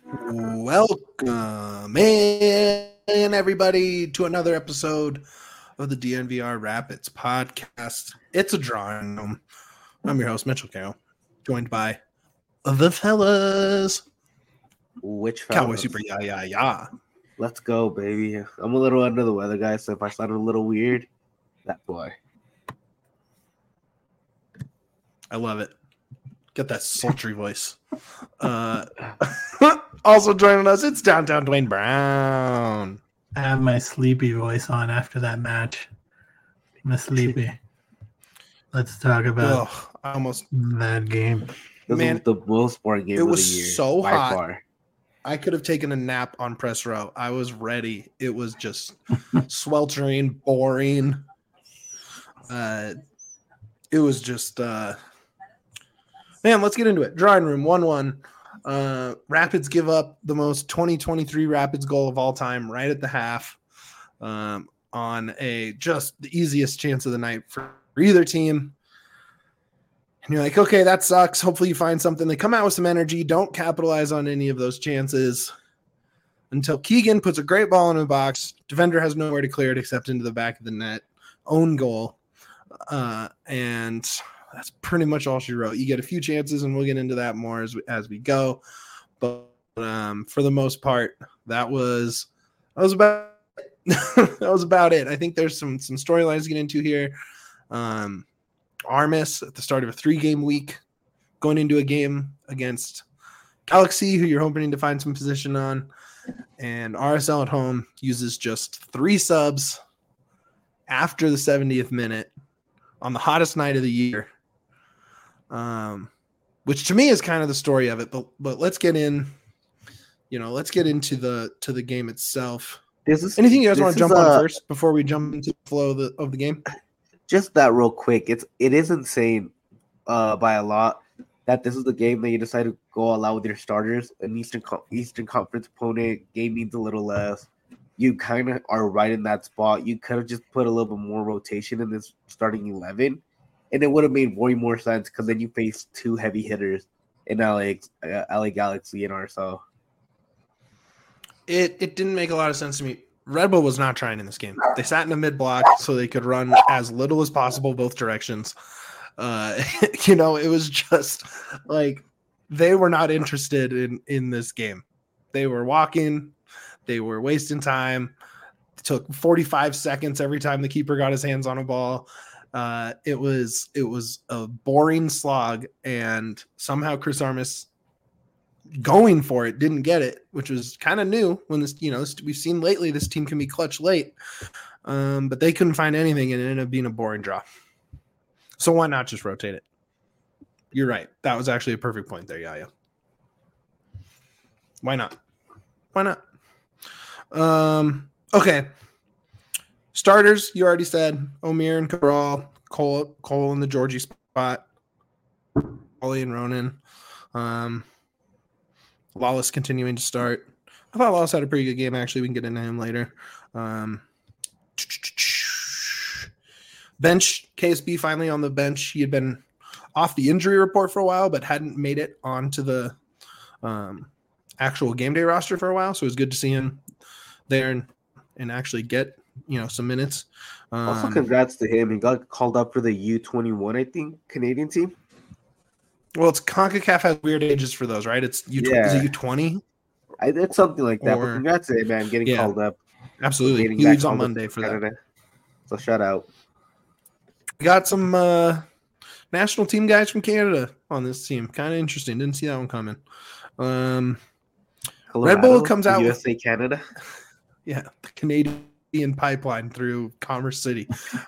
Welcome in, everybody, to another episode of the DNVR Rapids podcast. It's a drawing room. I'm your host, Mitchell Carroll, joined by the fellas. Which Cowboy fellas? Super Yeah. Let's go, baby. I'm a little under the weather, guys, so if I sound a little weird, that's why. I love it. Get that sultry voice. Also joining us, it's Downtown Dwayne Brown. I have my sleepy voice on after that match. I'm sleepy. Let's talk about that game. This was the most boring game of the year. It was so by hot. Far. I could have taken a nap on press row. I was ready. It was just sweltering, boring. It was just man, let's get into it. Drawing room 1-1. Rapids give up the most 2023 Rapids goal of all time right at the half, on just the easiest chance of the night for either team. And you're like, okay, that sucks. Hopefully you find something. They come out with some energy. Don't capitalize on any of those chances until Keegan puts a great ball in the box. Defender has nowhere to clear it except into the back of the net. Own goal. And that's pretty much all she wrote. You get a few chances, and we'll get into that more as we go. But for the most part, that was about that was about it. I think there's some storylines to get into here. Armis at the start of a 3-game week, going into a game against Galaxy, who you're hoping to find some position on, and RSL at home uses just 3 subs after the 70th minute on the hottest night of the year, which to me is kind of the story of it. But let's get in. Let's get into the game itself. Anything you guys want to jump on first before we jump into the flow of the game? Just that real quick. It is insane by a lot that this is the game that you decide to go all out with your starters. An Eastern Conference opponent, game needs a little less. You kind of are right in that spot. You could have just put a little bit more rotation in this starting 11, and it would have made way more sense because then you face 2 heavy hitters in LA Galaxy and RSL. It didn't make a lot of sense to me. Red Bull was not trying in this game. They sat in the mid block so they could run as little as possible both directions. It was just like they were not interested in this game. They were walking. They were wasting time. It took 45 seconds every time the keeper got his hands on a ball. It was a boring slog, and somehow Chris Armis going for it didn't get it, which was kind of new when this, we've seen lately this team can be clutch late, but they couldn't find anything and it ended up being a boring draw. So why not just rotate it? You're right. That was actually a perfect point there, Yaya. Why not? Okay. Starters, you already said Omir and Cabral, Cole in the Georgie spot, Ollie and Ronan. Lawless continuing to start. I thought Lawless had a pretty good game, actually. We can get into him later. Bench, KSB finally on the bench. He had been off the injury report for a while, but hadn't made it onto the actual game day roster for a while. So it was good to see him there and actually get, some minutes. Also, congrats to him. He got called up for the U21, I think, Canadian team. Well, it's CONCACAF has weird ages for those, right? It's U20. Yeah. Is it U20? It's something like that. But congrats to him, man, getting called up. Absolutely. He leaves on Monday for that. So shout out. We got some national team guys from Canada on this team. Kind of interesting. Didn't see that one coming. Colorado, Red Bull comes out USA, Canada. Yeah, the Canadian pipeline through Commerce City.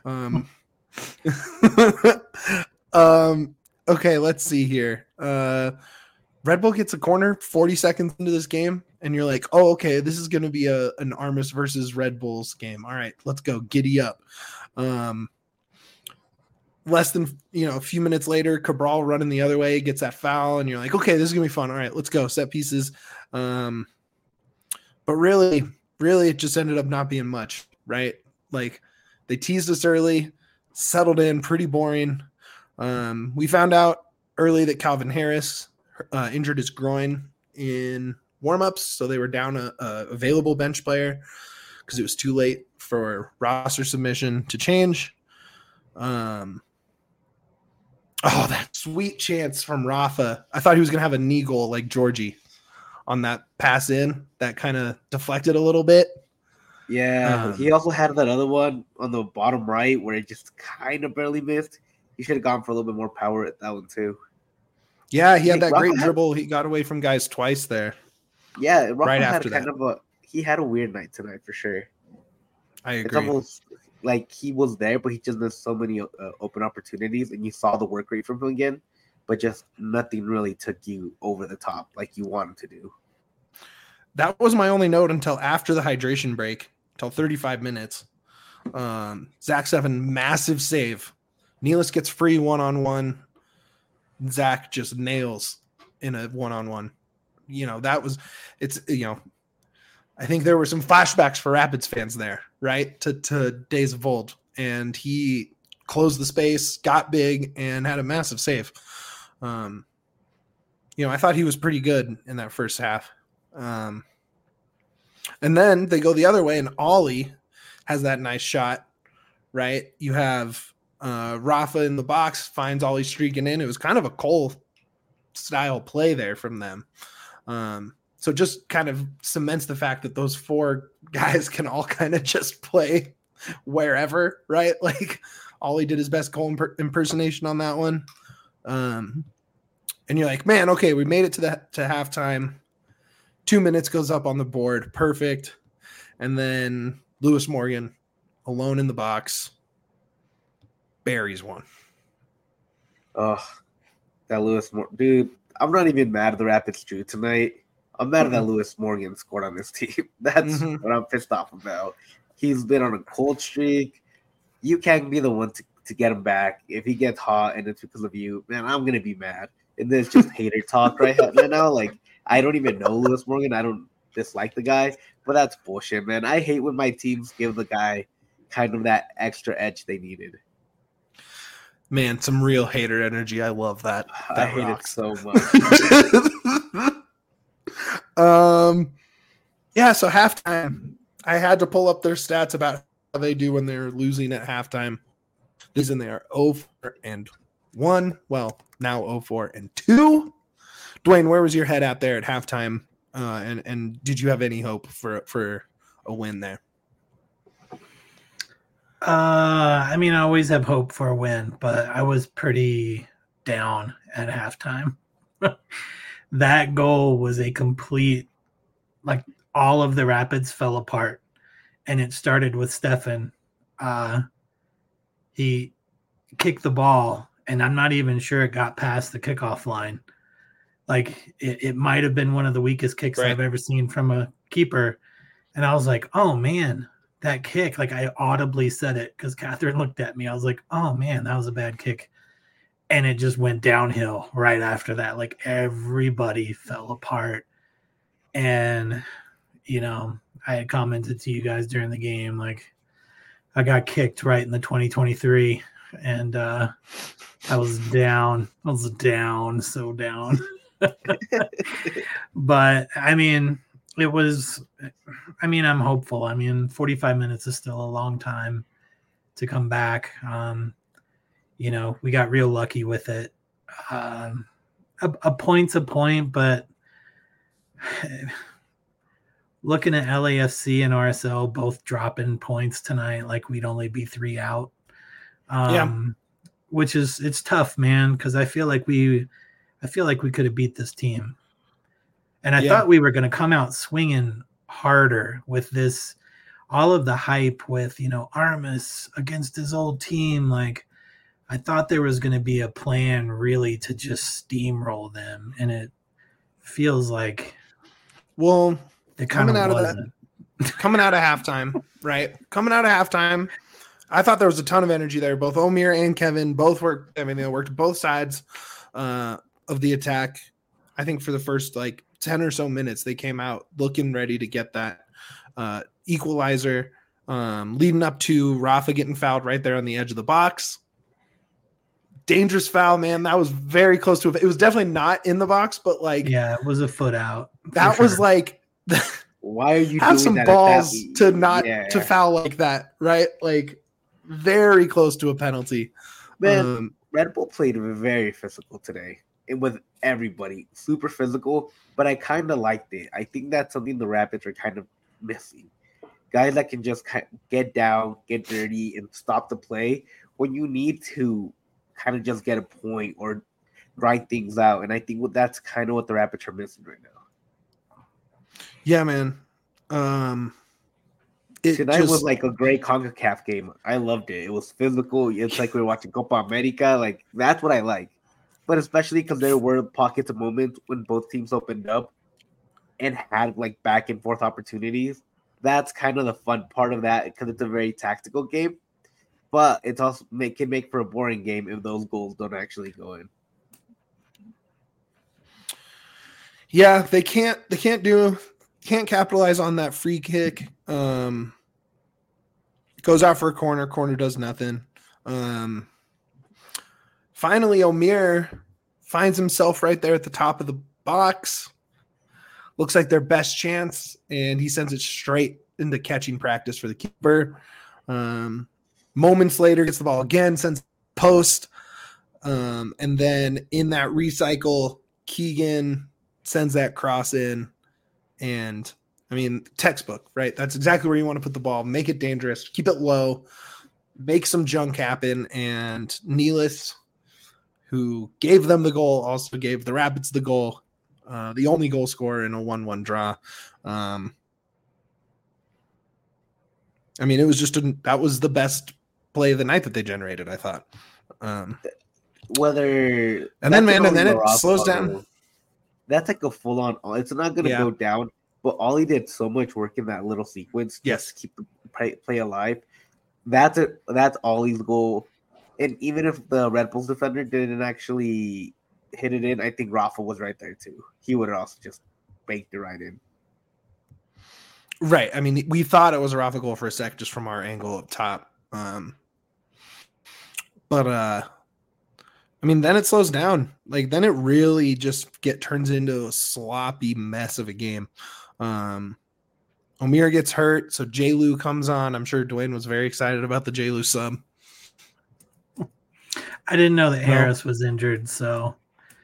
Okay, let's see here. Red Bull gets a corner 40 seconds into this game, and you're like, oh, okay, this is going to be an Armis versus Red Bulls game. All right, let's go. Giddy up. Less than, a few minutes later, Cabral running the other way, gets that foul, and you're like, okay, this is going to be fun. All right, let's go. Set pieces. But really, it just ended up not being much, right? Like, they teased us early, settled in, pretty boring. We found out early that Calvin Harris injured his groin in warmups, so they were down a available bench player because it was too late for roster submission to change. Oh, that sweet chance from Rafa. I thought he was going to have a knee goal like Georgie on that pass in. That kind of deflected a little bit. Yeah, he also had that other one on the bottom right where it just kind of barely missed. He should have gone for a little bit more power at that one too. Yeah, he had that great dribble. He got away from guys twice there. Yeah, Rafa right after that. He had a weird night tonight for sure. I agree. It's almost like he was there, but he just missed so many open opportunities, and you saw the work rate from him again, but just nothing really took you over the top like you wanted to do. That was my only note until after the hydration break, until 35 minutes. Zach Steffen, massive save. Nealis gets free one-on-one. Zach just nails in a one-on-one. I think there were some flashbacks for Rapids fans there, right? To days of old. And he closed the space, got big, and had a massive save. I thought he was pretty good in that first half. And then they go the other way, and Ollie has that nice shot, right? You have Rafa in the box, finds Ollie streaking in. It was kind of a Cole-style play there from them. So just kind of cements the fact that those four guys can all kind of just play wherever, right? Like Ollie did his best Cole impersonation on that one. And you're like, man, okay, we made it to halftime. 2 minutes goes up on the board. Perfect. And then Lewis Morgan alone in the box buries one. Oh, that Lewis Morgan. Dude, I'm not even mad at the Rapids drew tonight. I'm mad at that Lewis Morgan scored on this team. That's what I'm pissed off about. He's been on a cold streak. You can't be the one to get him back. If he gets hot and it's because of you, man, I'm going to be mad. And there's just hater talk right now. Like, I don't even know Lewis Morgan. I don't dislike the guy, but that's bullshit, man. I hate when my teams give the guy kind of that extra edge they needed. Man, some real hater energy. I love that. I hate it so much. Yeah, so halftime, I had to pull up their stats about how they do when they're losing at halftime. They are 0-1. Well, now 0-2. Dwayne, where was your head at there at halftime? And did you have any hope for a win there? I always have hope for a win, but I was pretty down at halftime. That goal was a complete, like, all of the Rapids fell apart, and it started with Steffen. He kicked the ball, and I'm not even sure it got past the kickoff line. Like, it might have been one of the weakest kicks I've ever seen from a keeper. And I was like, oh, man, that kick. Like, I audibly said it because Catherine looked at me. I was like, oh, man, that was a bad kick. And it just went downhill right after that. Like, everybody fell apart. And, I had commented to you guys during the game, like, I got kicked right in the 2023. And I was down. I was down, so down. But, it was – I'm hopeful. 45 minutes is still a long time to come back. We got real lucky with it. A point's a point, but looking at LAFC and RSL both dropping points tonight, like we'd only be 3 out. Which is, it's tough, man, because I feel like we could have beat this team. And I thought we were going to come out swinging harder with this, all of the hype with, Armas against his old team. Like, I thought there was going to be a plan really to just steamroll them. And it feels like, well, coming out of halftime, right? Coming out of halftime, I thought there was a ton of energy there. Both Omir and Kevin both worked. They worked both sides of the attack. I think for the first 10 or so minutes, they came out looking ready to get that equalizer, leading up to Rafa getting fouled right there on the edge of the box. Dangerous foul, man. That was very close to it. It was definitely not in the box, but it was a foot out. That was like why are you have doing some that balls to not Yeah. to foul like that, right? Like very close to a penalty. Man, Red Bull played very physical today. It was everybody super physical, but I kind of liked it. I think that's something the Rapids are kind of missing. Guys that can just get down, get dirty, and stop the play when you need to kind of just get a point or grind things out. And I think that's kind of what the Rapids are missing right now. Yeah, man. Tonight was like a great CONCACAF game. I loved it. It was physical. It's like we were watching Copa America. Like, that's what I like. But especially because there were pockets of moments when both teams opened up and had like back and forth opportunities. That's kind of the fun part of that because it's a very tactical game. But it's also can make for a boring game if those goals don't actually go in. Yeah, they can't capitalize on that free kick. Goes out for a corner. Corner does nothing. Finally, Omir finds himself right there at the top of the box. Looks like their best chance, and he sends it straight into catching practice for the keeper. Moments later, gets the ball again, sends post. And then in that recycle, Keegan sends that cross in. And I mean, textbook, right? That's exactly where you want to put the ball. Make it dangerous. Keep it low. Make some junk happen. And Nealis, who gave them the goal, also gave the Rapids the goal. The only goal scorer in a 1-1 draw. I mean, it was just that was the best play of the night that they generated, I thought. Then it slows down. That's like a full on. It's not going to go down, but Ollie did so much work in that little sequence. Yes, to keep the play alive. That's Ollie's goal. And even if the Red Bulls defender didn't actually hit it in, I think Rafa was right there too. He would have also just baked it right in. Right. I mean, we thought it was a Rafa goal for a sec just from our angle up top. But I mean, then it slows down. Like, then it really just turns into a sloppy mess of a game. Omir gets hurt, so J-Lu comes on. I'm sure Dwayne was very excited about the J-Lu sub. I didn't know that Harris was injured, so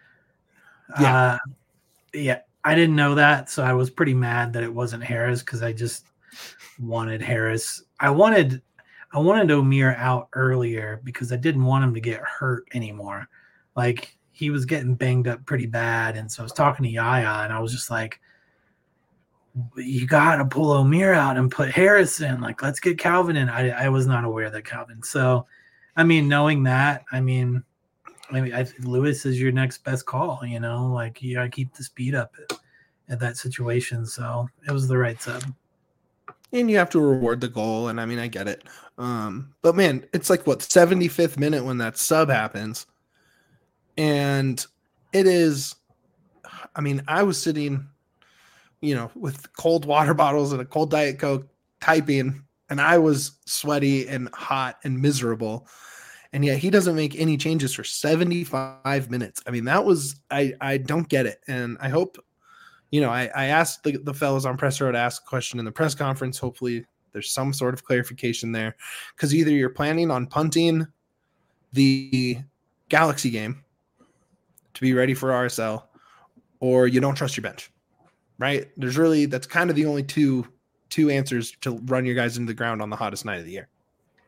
I didn't know that, so I was pretty mad that it wasn't Harris because I just wanted Harris. I wanted Omir out earlier because I didn't want him to get hurt anymore. Like, he was getting banged up pretty bad, and so I was talking to Yaya, and I was just like, you got to pull Omir out and put Harris in. Like, let's get Calvin in. I was not aware that Calvin. So, I mean, knowing that, I think Lewis is your next best call, you know? Like, you got to keep the speed up at that situation. So, it was the right sub. And you have to reward the goal, and I mean, I get it. But man, it's like what, 75th minute when that sub happens, and it is. I mean, I was sitting, with cold water bottles and a cold Diet Coke, typing, and I was sweaty and hot and miserable, and yet he doesn't make any changes for 75 minutes. I mean, that was I don't get it, and I hope. I asked the fellows on Press Row to ask a question in the press conference. Hopefully there's some sort of clarification there, because either you're planning on punting the Galaxy game to be ready for RSL, or you don't trust your bench, right? That's kind of the only two answers to run your guys into the ground on the hottest night of the year.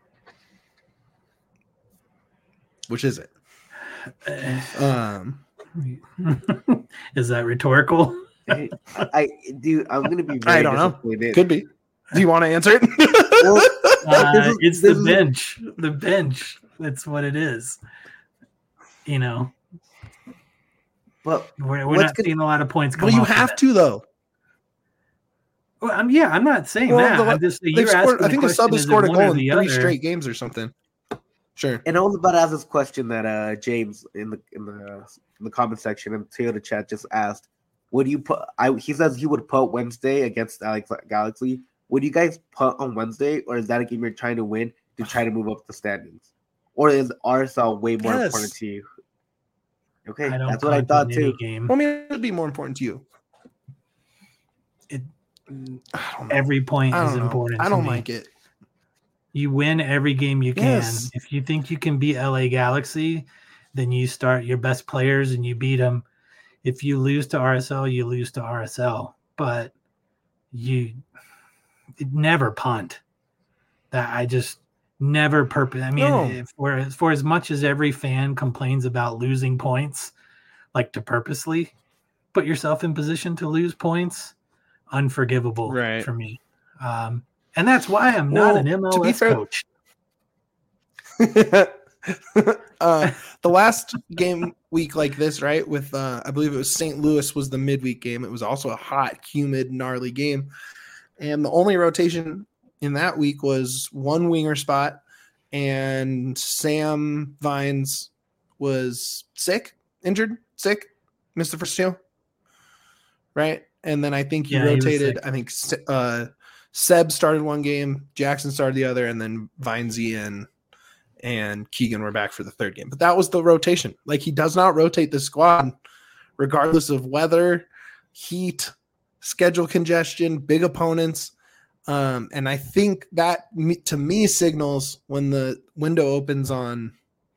Which is it? Is that rhetorical? I'm gonna be. I don't know. Could be. Do you want to answer it? It's the bench. The bench. That's what it is. But we're not seeing a lot of points. Well, you have to though. Well, I'm not saying that. I'm just I think the sub has scored a goal in 3 straight games or something. Sure. And I was about to ask this question that James in the comment section and Toyota chat just asked. Would you put? He says he would punt Wednesday against Galaxy. Would you guys punt on Wednesday, or is that a game you're trying to win to try to move up the standings, or is RSL way more important to you? Okay, that's what I thought too. Game. Well, I mean, it would be more important to you. every point is important. I don't like it. You win every game you can. Yes. If you think you can beat LA Galaxy, then you start your best players and you beat them. If you lose to RSL, you lose to RSL. But you never punt. That I just never purpose. I mean, for as much as every fan complains about losing points, like to purposely put yourself in position to lose points, unforgivable for me. And that's why I'm not an MLS coach. The last game week like this, right? With I believe it was St. Louis was the midweek game. It was also a hot, humid, gnarly game. And the only rotation in that week was one winger spot, and Sam Vines was injured, missed the first two, right? And then I think he rotated. I think Seb started one game, Jackson started the other, and then Vinesy and Keegan were back for the third game. But that was the rotation. Like, he does not rotate the squad regardless of weather, heat, schedule congestion, big opponents. And I think that to me signals when the window opens on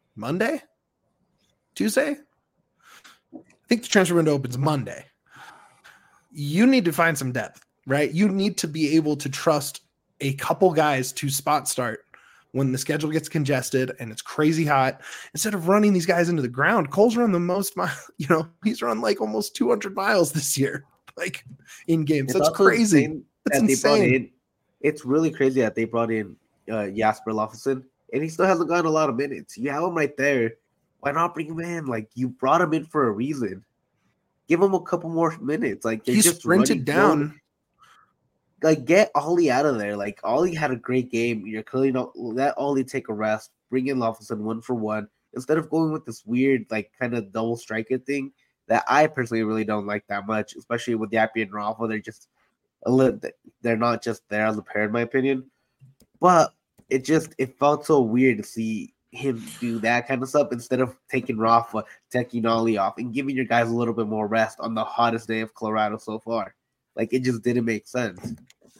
Tuesday. I think the transfer window opens Monday. You need to find some depth, right? You need to be able to trust a couple guys to spot start when the schedule gets congested and it's crazy hot. Instead of running these guys into the ground, Cole's run the most he's run like almost 200 miles this year, like in games. That's crazy. That's insane. It's really crazy that they brought in Jasper Loffelson, and he still hasn't gotten a lot of minutes. You have him right there. Why not bring him in? Like, you brought him in for a reason. Give him a couple more minutes. Like, he's just sprinted down. Like, get Ollie out of there. Like, Ollie had a great game. You're clearly not let Ollie take a rest. Bring in Loffelson 1-for-1 instead of going with this weird, like, kind of double striker thing that I personally really don't like that much, especially with Yappy and Rafa. They're not just there as a pair, in my opinion. But it felt so weird to see him do that kind of stuff instead of taking Rafa, taking Ollie off, and giving your guys a little bit more rest on the hottest day of Colorado so far. Like, it just didn't make sense.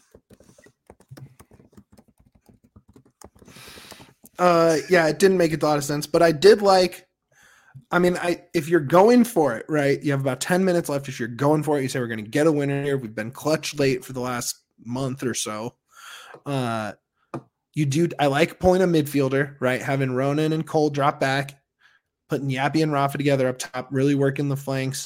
It didn't make a lot of sense, but I did like. I mean, if you're going for it, right, you have about 10 minutes left. If you're going for it, you say we're going to get a winner here. We've been clutch late for the last month or so. I like pulling a midfielder, right, having Ronan and Cole drop back, putting Yappy and Rafa together up top, really working the flanks.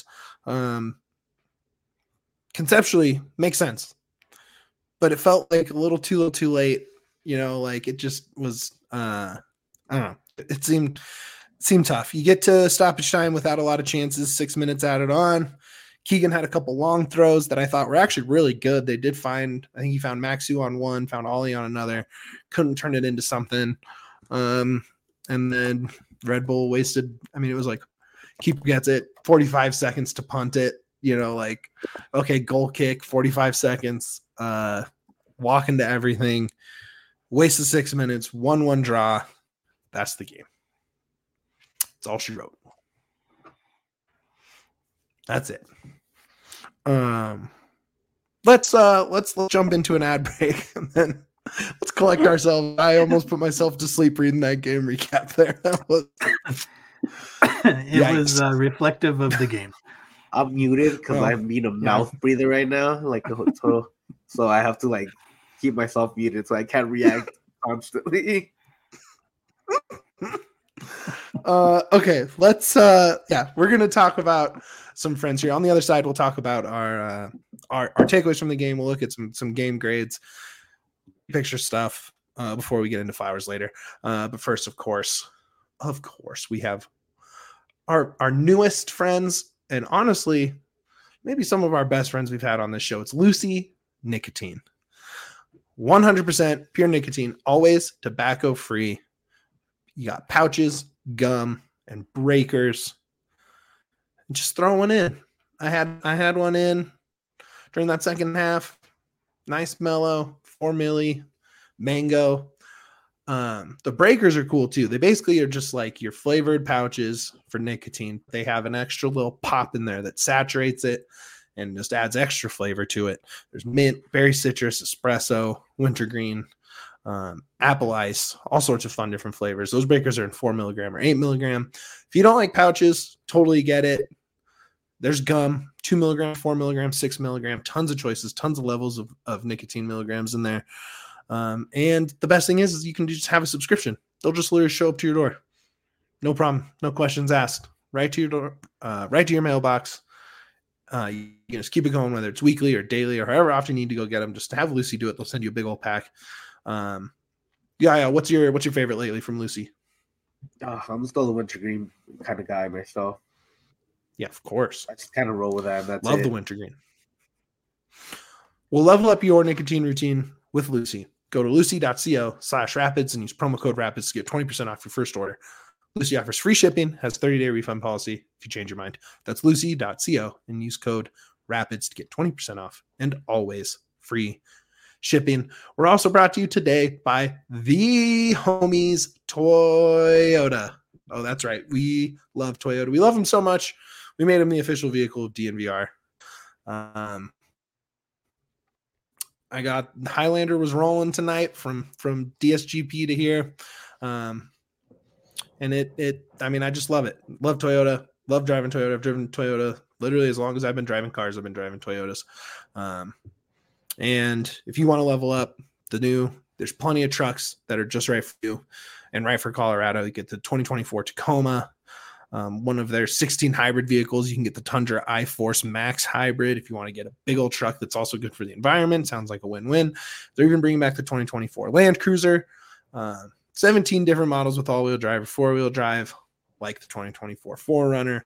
Conceptually, makes sense. But it felt like a little too late. Like it just was, I don't know. It seemed tough. You get to stoppage time without a lot of chances, 6 minutes added on. Keegan had a couple long throws that I thought were actually really good. They did I think he found Maxu on one, found Ollie on another, couldn't turn it into something. And then Red Bull wasted, it was like, keeper gets it, 45 seconds to punt it, like, okay, goal kick, 45 seconds, walk into everything, wasted 6 minutes, 1-1 draw. That's the game. That's all she wrote. That's it. Let's jump into an ad break and then let's collect ourselves. I almost put myself to sleep reading that game recap there. It was reflective of the game. I'm muted because I'm being a mouth breather right now, so I have to like keep myself muted so I can't react constantly. Okay, let's we're gonna talk about some friends here. On the other side, we'll talk about our takeaways from the game. We'll look at some game grades, picture stuff before we get into flowers later. But first, of course, we have our newest friends, and honestly, maybe some of our best friends we've had on this show. It's Lucy Nicotine. 100% pure nicotine, always tobacco free. You got pouches, gum, and breakers. Just throw one in. I had one in during that second half. Nice mellow, 4 milli, mango. The breakers are cool too. They basically are just like your flavored pouches for nicotine. They have an extra little pop in there that saturates it and just adds extra flavor to it. There's mint, berry citrus, espresso, wintergreen, apple ice, all sorts of fun different flavors. Those breakers are in 4 milligram or 8 milligram. If you don't like pouches, totally get it. There's gum, 2 milligram, 4 milligram, 6 milligram, tons of choices, tons of levels of nicotine milligrams in there. And the best thing is you can just have a subscription. They'll just literally show up to your door. No problem. No questions asked. Right to your door, right to your mailbox. You can just keep it going, whether it's weekly or daily or however often you need to go get them. Just to have Lucy do it. They'll send you a big old pack. Yeah. What's your favorite lately from Lucy? I'm still the wintergreen kind of guy myself. Yeah, of course. I just kind of roll with that. That's Love the wintergreen. We'll level up your nicotine routine with Lucy. Go to lucy.co/rapids and use promo code rapids to get 20% off your first order. Lucy offers free shipping, has 30-day refund policy if you change your mind. That's lucy.co and use code rapids to get 20% off and always free shipping. We're also brought to you today by the homies Toyota. Oh, that's right. We love Toyota. We love them so much. We made them the official vehicle of DNVR. I got Highlander was rolling tonight from DSGP to here. And I just love it. Love Toyota. Love driving Toyota. I've driven Toyota literally as long as I've been driving cars. I've been driving Toyotas. And if you want to level up there's plenty of trucks that are just right for you and right for Colorado. You get the 2024 Tacoma, one of their 16 hybrid vehicles. You can get the Tundra iForce Max hybrid if you want to get a big old truck that's also good for the environment. Sounds like a win-win. They're even bringing back the 2024 Land Cruiser. 17 different models with all-wheel drive or four-wheel drive, like the 2024 4Runner.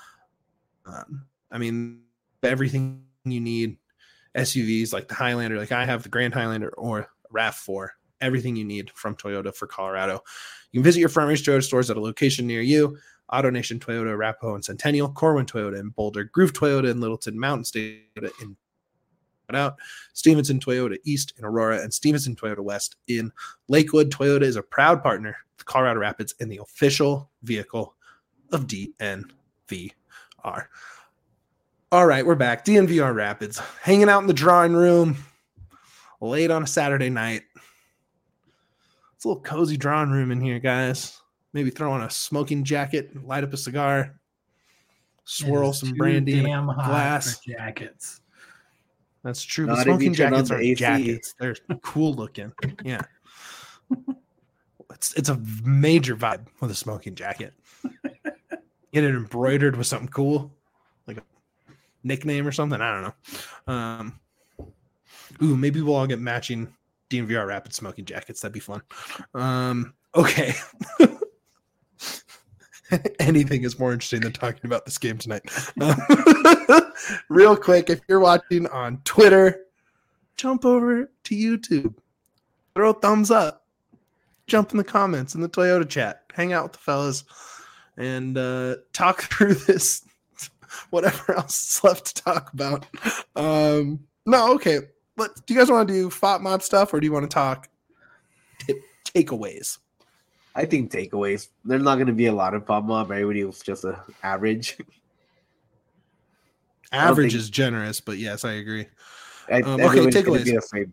Everything you need. SUVs like the Highlander, like I have the Grand Highlander or RAV4, everything you need from Toyota for Colorado. You can visit your Front Range Toyota stores at a location near you. AutoNation Toyota, Arapahoe and Centennial, Corwin Toyota in Boulder, Groove Toyota in Littleton, Mountain State Toyota in Stevenson Toyota East in Aurora, and Stevenson Toyota West in Lakewood. Toyota is a proud partner of Colorado Rapids and the official vehicle of DNVR. All right, we're back. DNVR Rapids, hanging out in the drawing room late on a Saturday night. It's a little cozy drawing room in here, guys. Maybe throw on a smoking jacket, light up a cigar, swirl some brandy in a glass. For jackets. That's true. But smoking jackets aren't jackets. They're cool looking. Yeah. It's a major vibe with a smoking jacket. Get it embroidered with something cool, like a nickname or something. I don't know. Maybe we'll all get matching DNVR Rapid smoking jackets. That'd be fun. Okay. Anything is more interesting than talking about this game tonight. Real quick, if you're watching on Twitter, jump over to YouTube. Throw a thumbs up. Jump in the comments in the Toyota chat. Hang out with the fellas and talk through this, whatever else is left to talk about. No, okay. But do you guys want to do FOT mod stuff or do you want to talk takeaways? I think takeaways. There's not going to be a lot of FOT mod. Everybody was just an average. Average is generous, but yes, I agree. Okay, takeaways.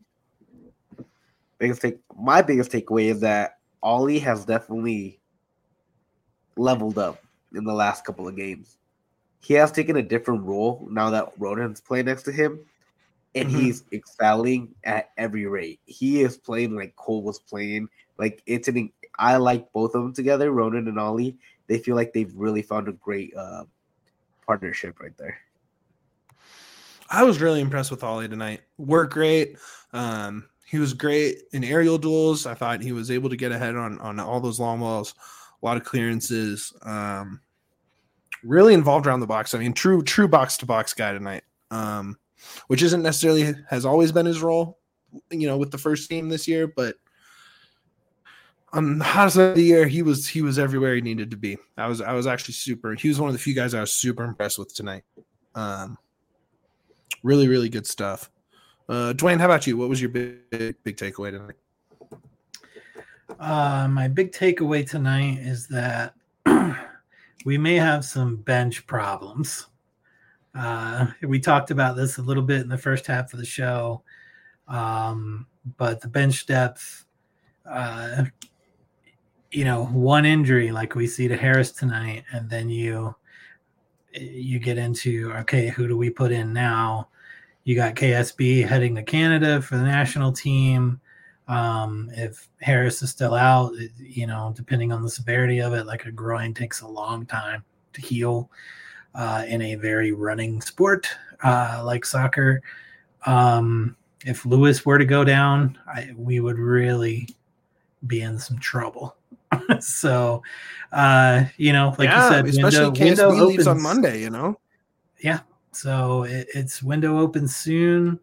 My biggest takeaway is that Ollie has definitely leveled up in the last couple of games. He has taken a different role now that Ronan's playing next to him, and he's excelling at every rate. He is playing like Cole was playing. Like I like both of them together, Ronan and Ollie. They feel like they've really found a great partnership right there. I was really impressed with Ollie tonight. Worked great. He was great in aerial duels. I thought he was able to get ahead on all those long balls, a lot of clearances. Really involved around the box. I mean, true box-to-box guy tonight, which isn't necessarily has always been his role, with the first team this year. But on the hottest of the year, he was everywhere he needed to be. I was actually he was one of the few guys I was super impressed with tonight. Really, really good stuff. Dwayne, how about you? What was your big takeaway tonight? My big takeaway tonight is that we may have some bench problems. We talked about this a little bit in the first half of the show, but the bench depth, one injury like we see to Harris tonight, and then you get into, okay, who do we put in now? You got KSB heading to Canada for the national team. If Harris is still out, depending on the severity of it, like a groin takes a long time to heal in a very running sport like soccer. If Lewis were to go down, we would really be in some trouble. So, like you said, especially KSB leaves on Monday, Yeah. So it's window opens soon.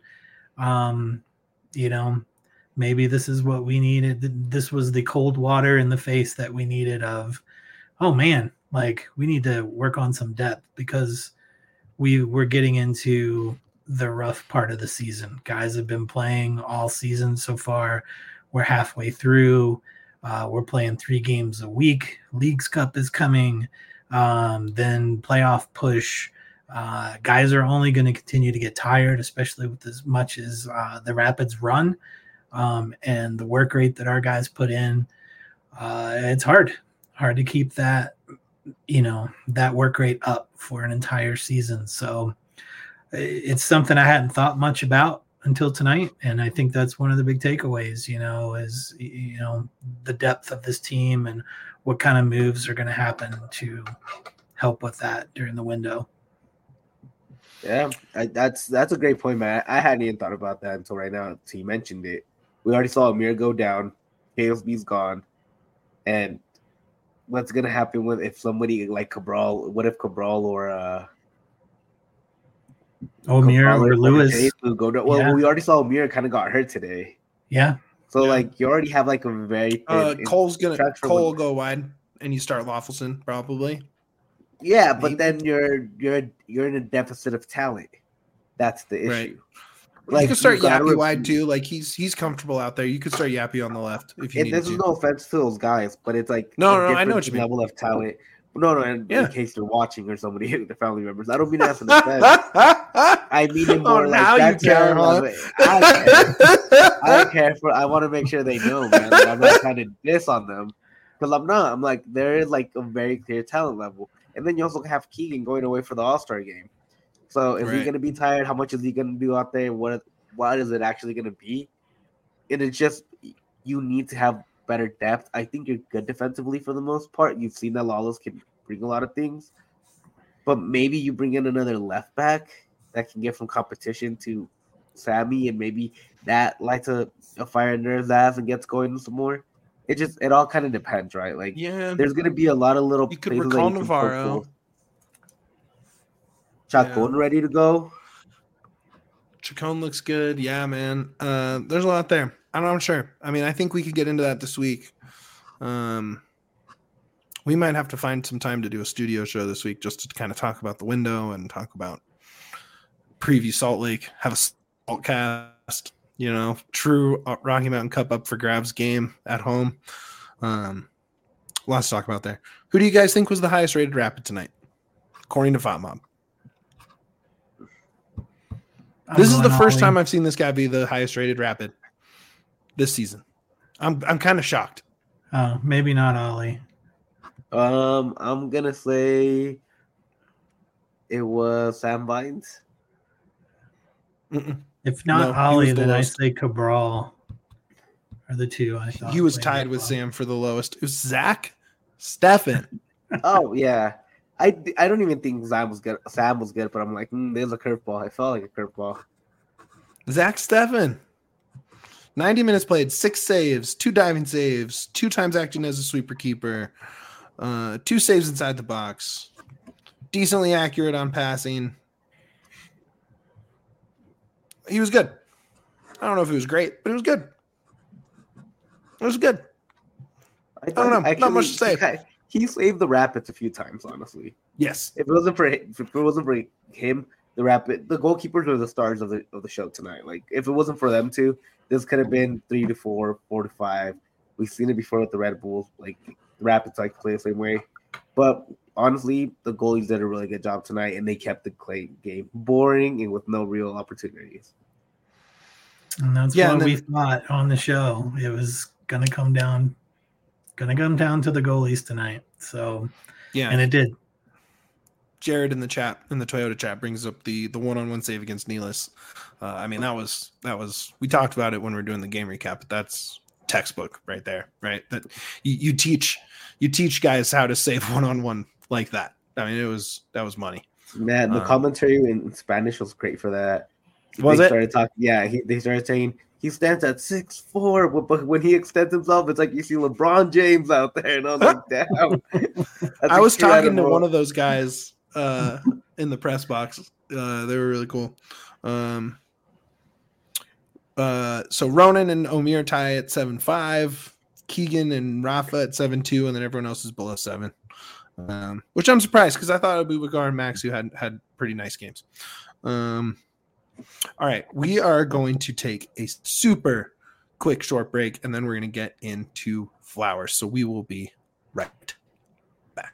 Maybe this is what we needed. This was the cold water in the face that we needed of, oh man, like we need to work on some depth because we were getting into the rough part of the season. Guys have been playing all season so far. We're halfway through. We're playing 3 games a week. Leagues Cup is coming. Then playoff push. Guys are only going to continue to get tired, especially with as much as the Rapids run and the work rate that our guys put in. It's hard to keep that, that work rate up for an entire season. So it's something I hadn't thought much about until tonight. And I think that's one of the big takeaways, is, the depth of this team and what kind of moves are going to happen to help with that during the window. Yeah, that's a great point, man. I hadn't even thought about that until right now. So you mentioned it. We already saw Amir go down. KSB's gone. And what's going to happen if somebody like Cabral, what if Cabral or Amir or Lewis go down? Well, we already saw Amir kind of got hurt today. Yeah. So you already have like a very Cole will go wide and you start Lawfulson probably. Yeah, but then you're in a deficit of talent. That's the issue. Right. Like, you could start Yappy wide too. Like he's comfortable out there. You could start Yappy on the left if you need to. This is no offense to those guys, but it's like no, I know what you mean. Level of talent. No, in case they're watching or somebody, the family members. I don't mean that for the offense. I mean it more now like you care. I care for. I want to make sure they know, man. Like, I'm not trying to diss on them because I'm not. I'm like there is like a very clear talent level. And then you also have Keegan going away for the All-Star game. So is he going to be tired? How much is he going to do out there? What is it actually going to be? And it's just you need to have better depth. I think you're good defensively for the most part. You've seen that Lawless can bring a lot of things. But maybe you bring in another left back that can get from competition to Sammy, and maybe that lights a fire under his ass and gets going some more. It all kind of depends, right? Like, there's going to be a lot of little. You could recall Navarro. Chacon ready to go. Chacon looks good. Yeah, man. There's a lot there. I'm sure. I mean, I think we could get into that this week. We might have to find some time to do a studio show this week just to kind of talk about the window and talk about preview Salt Lake, have a Salt cast. True Rocky Mountain Cup up for grabs game at home. Lots to talk about there. Who do you guys think was the highest rated Rapid tonight, according to FOTMob? This is the first time I've seen this guy be the highest rated Rapid this season. I'm kind of shocked. Oh, maybe not Ollie. I'm gonna say it was Sam Vines. If not Ollie, then I say Cabral are the two I thought. He was tied with Sam for the lowest. It was Zach Steffen. Oh, yeah. I don't even think Sam was good, but I'm like, there's a curveball. I felt like a curveball. Zach Steffen. 90 minutes played, 6 saves, 2 diving saves, 2 times acting as a sweeper keeper, 2 saves inside the box, decently accurate on passing. He was good. I don't know if it was great, but it was good. It was good. I don't know. Not much to say. He saved the Rapids a few times, honestly. Yes. If it wasn't for him, the goalkeepers were the stars of the show tonight. Like, if it wasn't for them two, this could have been 3-4, 4-5. We've seen it before with the Red Bulls. Like, the Rapids like play the same way. But honestly, the goalies did a really good job tonight, and they kept the game boring and with no real opportunities. And that's what we thought on the show. It was gonna come down to the goalies tonight. So yeah, and it did. Jared in the Toyota chat brings up the one-on-one save against Nealis. I mean, that was we talked about it when we were doing the game recap, but that's textbook right there, right? That you teach guys how to save one-on-one like that. I mean, that was money. Man, the commentary in Spanish was great for that. Was they it? Started talking, yeah, they started saying he stands at 6'4", but when he extends himself, it's like you see LeBron James out there, and I was like, damn. I was talking to one of those guys in the press box. They were really cool. So Ronan and Omir tie at 7-5, Keegan and Rafa at 7-2, and then everyone else is below 7. Which I'm surprised because I thought Abubakar and Max, who had pretty nice games. All right, we are going to take a super quick short break, and then we're going to get into Flowers. So we will be right back.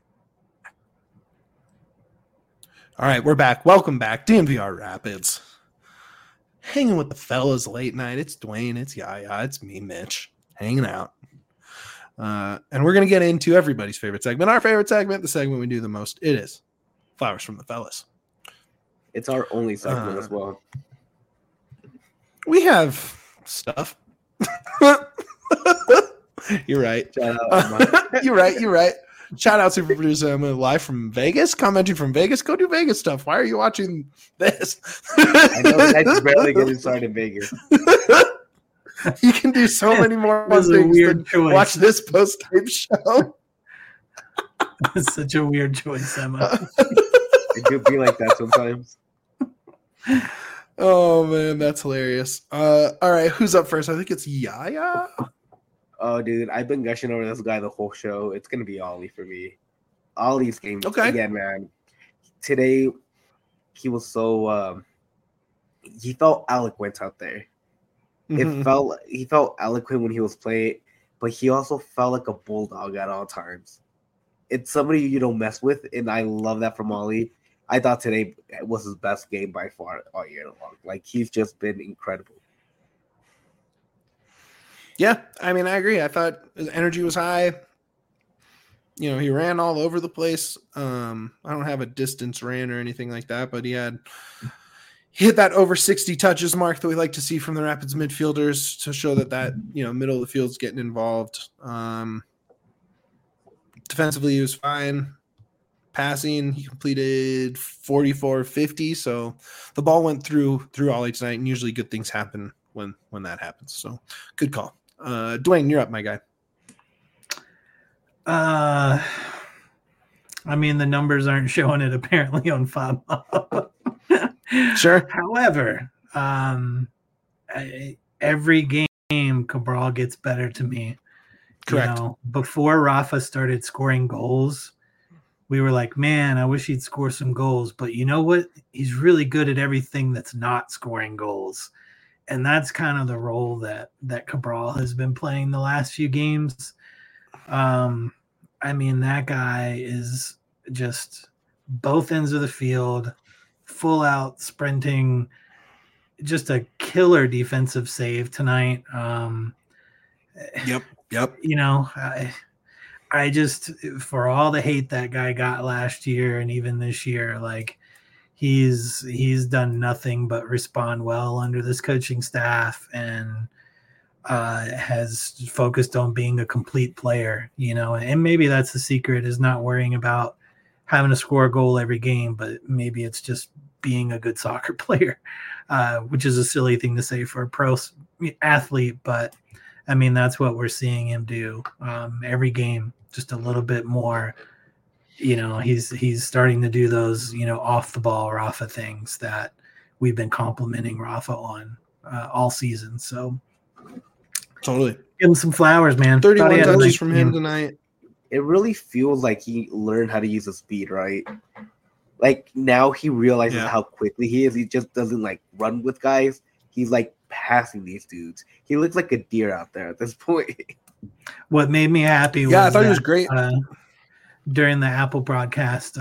All right, we're back. Welcome back, DNVR Rapids. Hanging with the fellas late night. It's Dwayne, it's Yaya, it's me, Mitch, hanging out. And we're going to get into everybody's favorite segment. Our favorite segment, the segment we do the most. It is Flowers from the Fellas. It's our only segment as well. We have stuff. You're right. Shout out, You're right. Shout out super producer Emma, live from Vegas, commenting from Vegas. Go do Vegas stuff. Why are you watching this? I know I barely get inside in Vegas. You can do so many more things than watch this post-game show. It's such a weird choice, Emma. It could be like that sometimes. Oh man, that's hilarious. All right, who's up first? I think it's Yaya. Oh, dude, I've been gushing over this guy the whole show. It's gonna be Ollie for me. Ollie's game again, man. Today, he was so he felt eloquent out there. Mm-hmm. He felt eloquent when he was playing, but he also felt like a bulldog at all times. It's somebody you don't mess with, and I love that from Ollie. I thought today was his best game by far all year long. Like, he's just been incredible. Yeah, I mean, I agree. I thought his energy was high. You know, he ran all over the place. I don't have a distance ran or anything like that, but he hit that over 60 touches mark that we like to see from the Rapids midfielders to show that middle of the field's getting involved. Defensively, he was fine. Passing, he completed 44-50, so the ball went through Ollie tonight, and usually good things happen when that happens. So good call. Dwayne, you're up, my guy. I mean, the numbers aren't showing it apparently on FOB. Sure. However, every game Cabral gets better to me. Correct. Before Rafa started scoring goals, we were like, man, I wish he'd score some goals. But you know what? He's really good at everything that's not scoring goals. And that's kind of the role that Cabral has been playing the last few games. I mean, that guy is just both ends of the field, full out sprinting, just a killer defensive save tonight. Yep. I just, for all the hate that guy got last year and even this year, like he's done nothing but respond well under this coaching staff and has focused on being a complete player, and maybe that's the secret, is not worrying about having to score a goal every game, but maybe it's just being a good soccer player, which is a silly thing to say for a pro athlete, but I mean, that's what we're seeing him do every game, just a little bit more. He's starting to do those, off the ball Rafa things that we've been complimenting Rafa on all season. So totally give him some flowers, man. 31 touches from him tonight. It really feels like he learned how to use his speed, right? Like, now he realizes how quickly he is. He just doesn't run with guys. He's passing these dudes. He looks like a deer out there at this point. What made me happy was I thought he was great. during the Apple broadcast,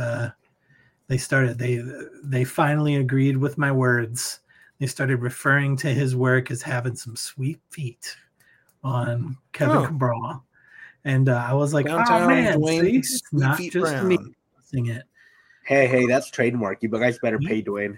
they finally agreed with my words. They started referring to his work as having some sweet feet on Kevin Cabral. And I was like, Downtown oh man, Dwayne, see, it's not Feet just Brown. me sing it. Hey, that's trademark. You guys better pay Dwayne.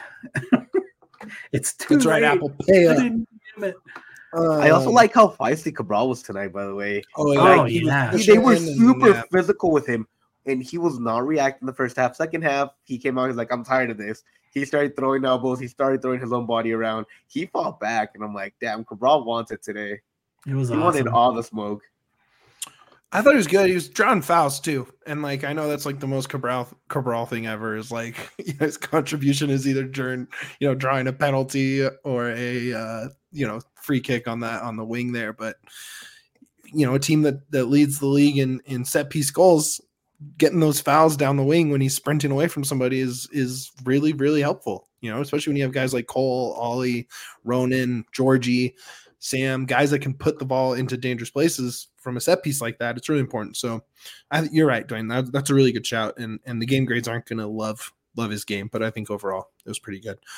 It's too That's right, late. Apple. Pay up. Damn it. I also like how feisty Cabral was tonight, by the way. They were super physical with him, and he was not reacting the first half. Second half, he came out, he's like, I'm tired of this. He started throwing elbows. He started throwing his own body around. He fought back, and I'm like, damn, Cabral wants it today. It was he wanted all the smoke. I thought he was good. He was drawing fouls too, and like I know that's like the most Cabral thing ever. Is like his contribution is either during drawing a penalty or a free kick on the wing there. But a team that leads the league in set piece goals, getting those fouls down the wing when he's sprinting away from somebody is really, really helpful. Especially when you have guys like Cole, Ollie, Ronan, Georgie, Sam, guys that can put the ball into dangerous places from a set piece like that. It's really important. So you're right, Dwayne. That's a really good shout. And the game grades aren't going to love his game, but I think overall it was pretty good.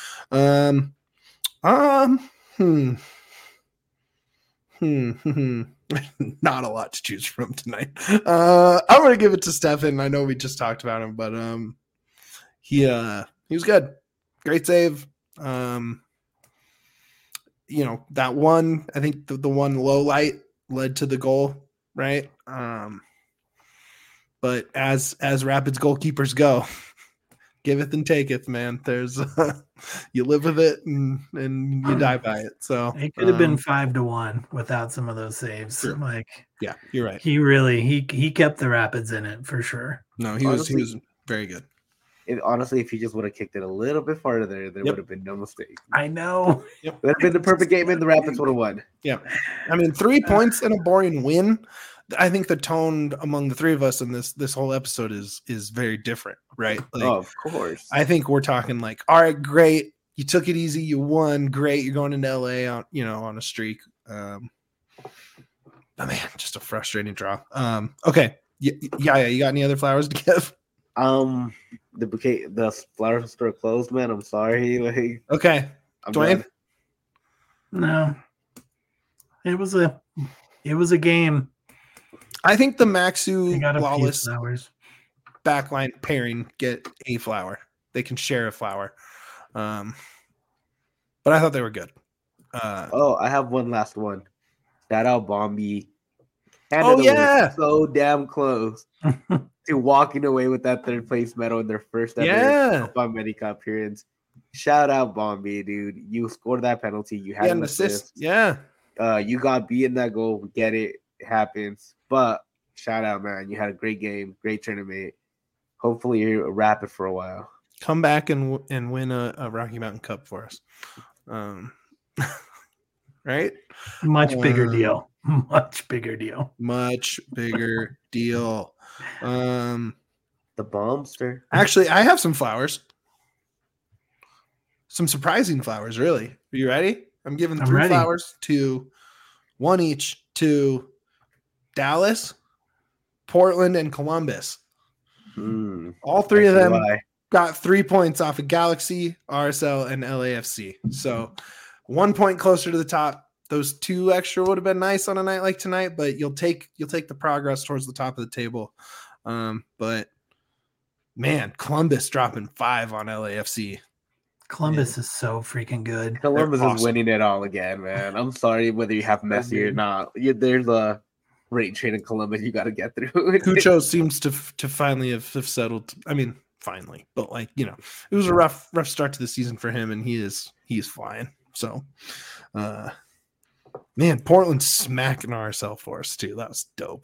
Not a lot to choose from tonight. I'm going to give it to Stefan. I know we just talked about him, but he was good. Great save. That one, I think the one low light led to the goal, right? But as Rapids goalkeepers go, giveth and taketh, man. There's you live with it and you die by it. So it could have been 5-1 without some of those saves. Sure. Yeah, you're right. He really he kept the Rapids in it for sure. No, he was very good. Honestly, if he just would have kicked it a little bit farther, there would have been no mistake. I know. It would have been the perfect game, and the Rapids would have won. Yeah. I mean, 3 points and a boring win. I think the tone among the three of us in this whole episode is very different, right? Like, of course. I think we're talking like, all right, great. You took it easy. You won. Great. You're going into LA on a streak. But man, just a frustrating draw. Okay. Yeah. You got any other flowers to give? The flower store closed, man. I'm sorry. Okay. Dwayne? No. It was a game. I think the Maxu Lawless backline pairing get a flower. They can share a flower. But I thought they were good. I have one last one. Shout out Bombi. So damn close to walking away with that third place medal in their first ever Copa America appearance. Shout out Bombi, dude. You scored that penalty. You had an assist. Yeah. You got beat in that goal. Get it. It happens. But shout out, man. You had a great game, great tournament. Hopefully you're a Rapid for a while. Come back and win a Rocky Mountain Cup for us. Right? Much bigger deal. Much bigger deal. Much bigger deal. The Bombster. Actually, I have some flowers. Some surprising flowers, really. Are you ready? I'm giving 3 flowers to 1 each to Dallas, Portland, and Columbus. All 3 of them got 3 points off of Galaxy, RSL, and LAFC. So 1 point closer to the top. Those 2 extra would have been nice on a night like tonight, but you'll take the progress towards the top of the table. But man, Columbus dropping 5 on LAFC. Columbus is so freaking good. Columbus is winning it all again, man. I'm sorry whether you have Messi or not. There's a rate train in Columbus you got to get through. Cucho seems to finally have settled. I mean, finally, but it was a rough start to the season for him, and he is flying. So, man, Portland smacking RSL for us too. That was dope.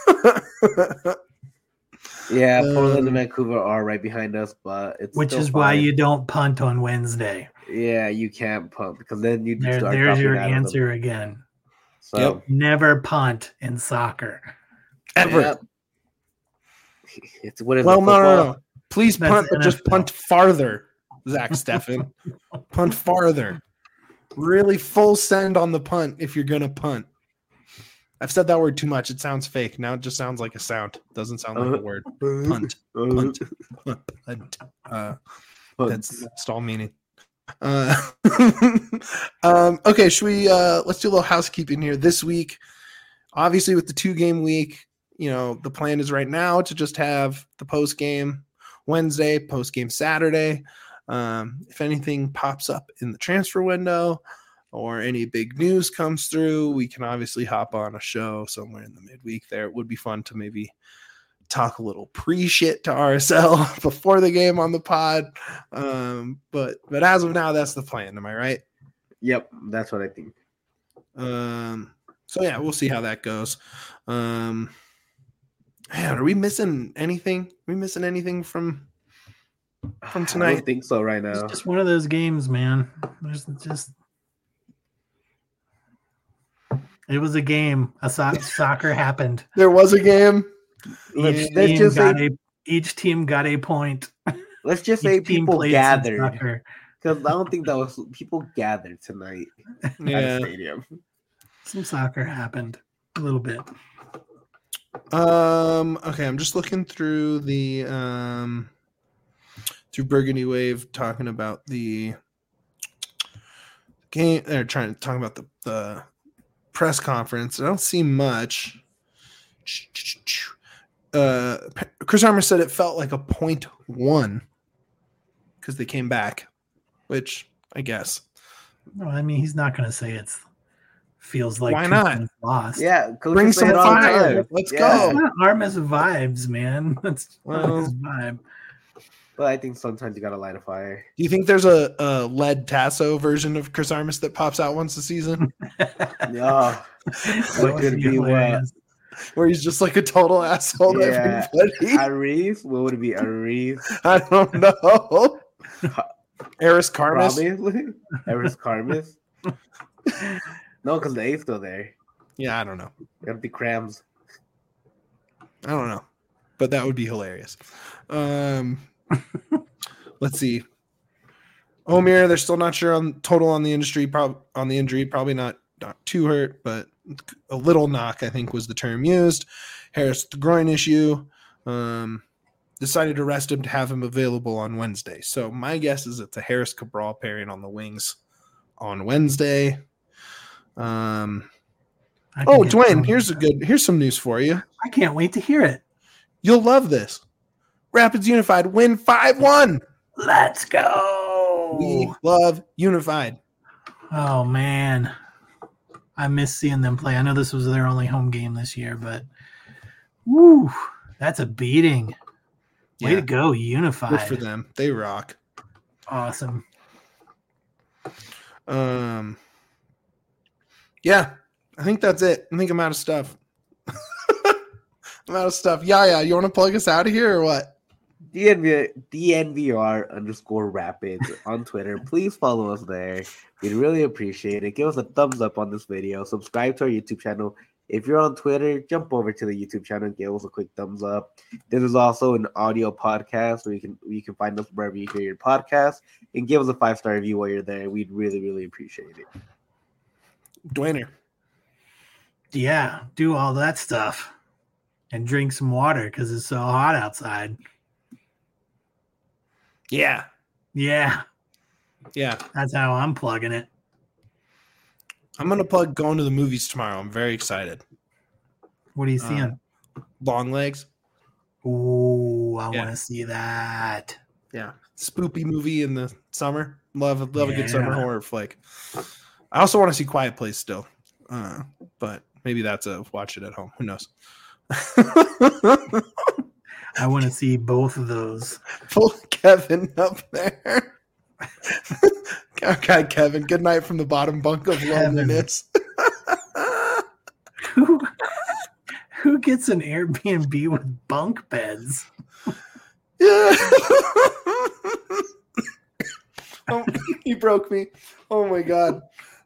Yeah, Portland and Vancouver are right behind us, but it's which is why you don't punt on Wednesday. Yeah, you can't punt because then you start. There's your answer again. So never punt in soccer ever. Yeah. It's no. Please punt, but just punt farther, Zach Stefan. Punt farther. Really full send on the punt if you're gonna punt. I've said that word too much. It sounds fake. Now it just sounds like a sound. Doesn't sound like a word. Punt. That's stall meaning. Okay, should we let's do a little housekeeping here this week. Obviously with the 2-game week, the plan is right now to just have the post game Wednesday, post game Saturday. If anything pops up in the transfer window or any big news comes through, we can obviously hop on a show somewhere in the midweek there. It would be fun to maybe talk a little pre-shit to RSL before the game on the pod. But as of now, that's the plan. Am I right? Yep, that's what I think. So yeah, we'll see how that goes. Man, are we missing anything? Are we missing anything from tonight? I don't think so right now. It's just one of those games, man. There's just it was a game. Soccer happened. There was a game. Each team got a point. Let's just say people gathered. Because I don't think that was people gathered tonight at the stadium. Some soccer happened a little bit. Okay, I'm just looking through the through Burgundy Wave, talking about the game. They're trying to talk about the press conference. I don't see much. Chris Armas said it felt like a 0.1 because they came back, which I guess. No, I mean he's not going to say it's feels like why not lost. Yeah, bring some fire. Let's go. It's not Armas vibes, man. That's his vibe. But I think sometimes you gotta light a fire. Do you think there's a lead Tasso version of Chris Armas that pops out once a season? Yeah, what could be what? Where he's just like a total asshole to everybody. Arif? What would it be? Arif? I don't know. Eris Karmas? Probably. Eris Karmas? No, because the A's still there. Yeah, I don't know. It'll be Crams. I don't know. But that would be hilarious. Let's see. Omir, they're still not sure on total on the injury. Probably not too hurt, but a little knock, I think, was the term used. Harris, the groin issue. Decided to rest him to have him available on Wednesday. So my guess is it's a Harris Cabral pairing on the wings on Wednesday. Dwayne, here's some news for you. I can't wait to hear it. You'll love this. Rapids Unified win 5-1. Let's go. We love Unified. Oh man, I miss seeing them play. I know this was their only home game this year, but woo, that's a beating. Way to go, Unified. Good for them. They rock. Awesome. Yeah, I think that's it. I think I'm out of stuff. I'm out of stuff. Yeah. You want to plug us out of here or what? DNVR_Rapids on Twitter. Please follow us there. We'd really appreciate it. Give us a thumbs up on this video. Subscribe to our YouTube channel. If you're on Twitter, jump over to the YouTube channel and give us a quick thumbs up. This is also an audio podcast where you can find us wherever you hear your podcast, and give us a 5-star review while you're there. We'd really, really appreciate it. Dwayner. Yeah, do all that stuff and drink some water because it's so hot outside. Yeah. That's how I'm plugging it. I'm going to plug going to the movies tomorrow. I'm very excited. What are you seeing? Long Legs. Oh, I want to see that. Yeah. Spoopy movie in the summer. Love a good summer horror flick. I also want to see Quiet Place still. But maybe that's a watch it at home. Who knows? I want to see both of those. Pull Kevin up there. Okay, Kevin. Good night from the bottom bunk of loneliness. Who gets an Airbnb with bunk beds? Yeah. Oh, he broke me. Oh my god.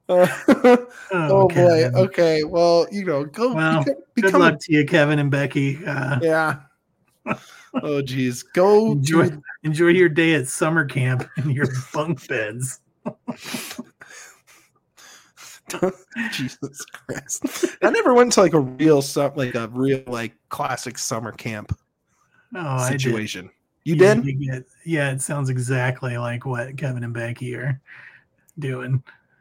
Oh boy. Okay. Well, go. Well, good luck to you, Kevin and Becky. Yeah. Oh geez. Go enjoy your day at summer camp in your bunk beds. Jesus Christ! I never went to like a real classic summer camp situation. You did? Yeah, it sounds exactly like what Kevin and Becky are doing.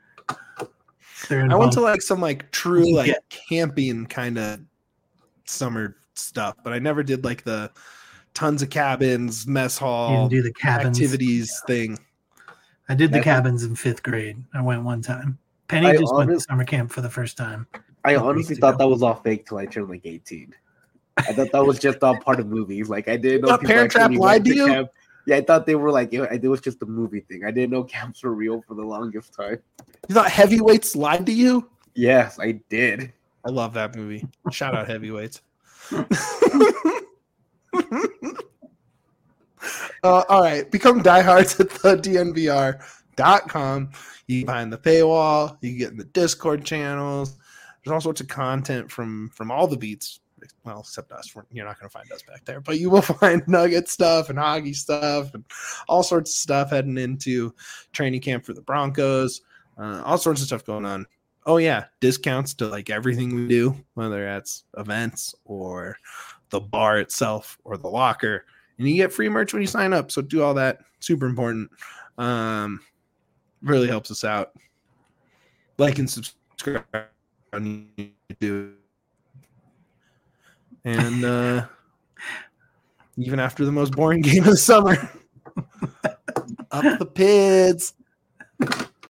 I went to like some like true like camping kind of summer stuff, but I never did like the tons of cabins, mess hall, you didn't do the cabins activities thing. I did the cabins in 5th grade. I went one time. Penny just went to summer camp for the first time. I honestly thought that was all fake till I turned like 18. I thought that was just all part of movies. Like I didn't know Parent Trap lied to you. Camp. Yeah, I thought they were like it was just a movie thing. I didn't know camps were real for the longest time. You thought Heavyweights lied to you? Yes, I did. I love that movie. Shout out Heavyweights. All right, become diehards at the DNVR.com. You can find the paywall. You can get in the Discord channels. There's all sorts of content from all the beats. Well, except us. You're not going to find us back there, but you will find Nugget stuff and Hoggy stuff and all sorts of stuff heading into training camp for the Broncos. All sorts of stuff going on. Oh yeah, discounts to like everything we do, whether that's events or the bar itself or the locker. And you get free merch when you sign up. So do all that. Super important. Really helps us out. Like and subscribe on YouTube. And even after the most boring game of the summer, up the Pids.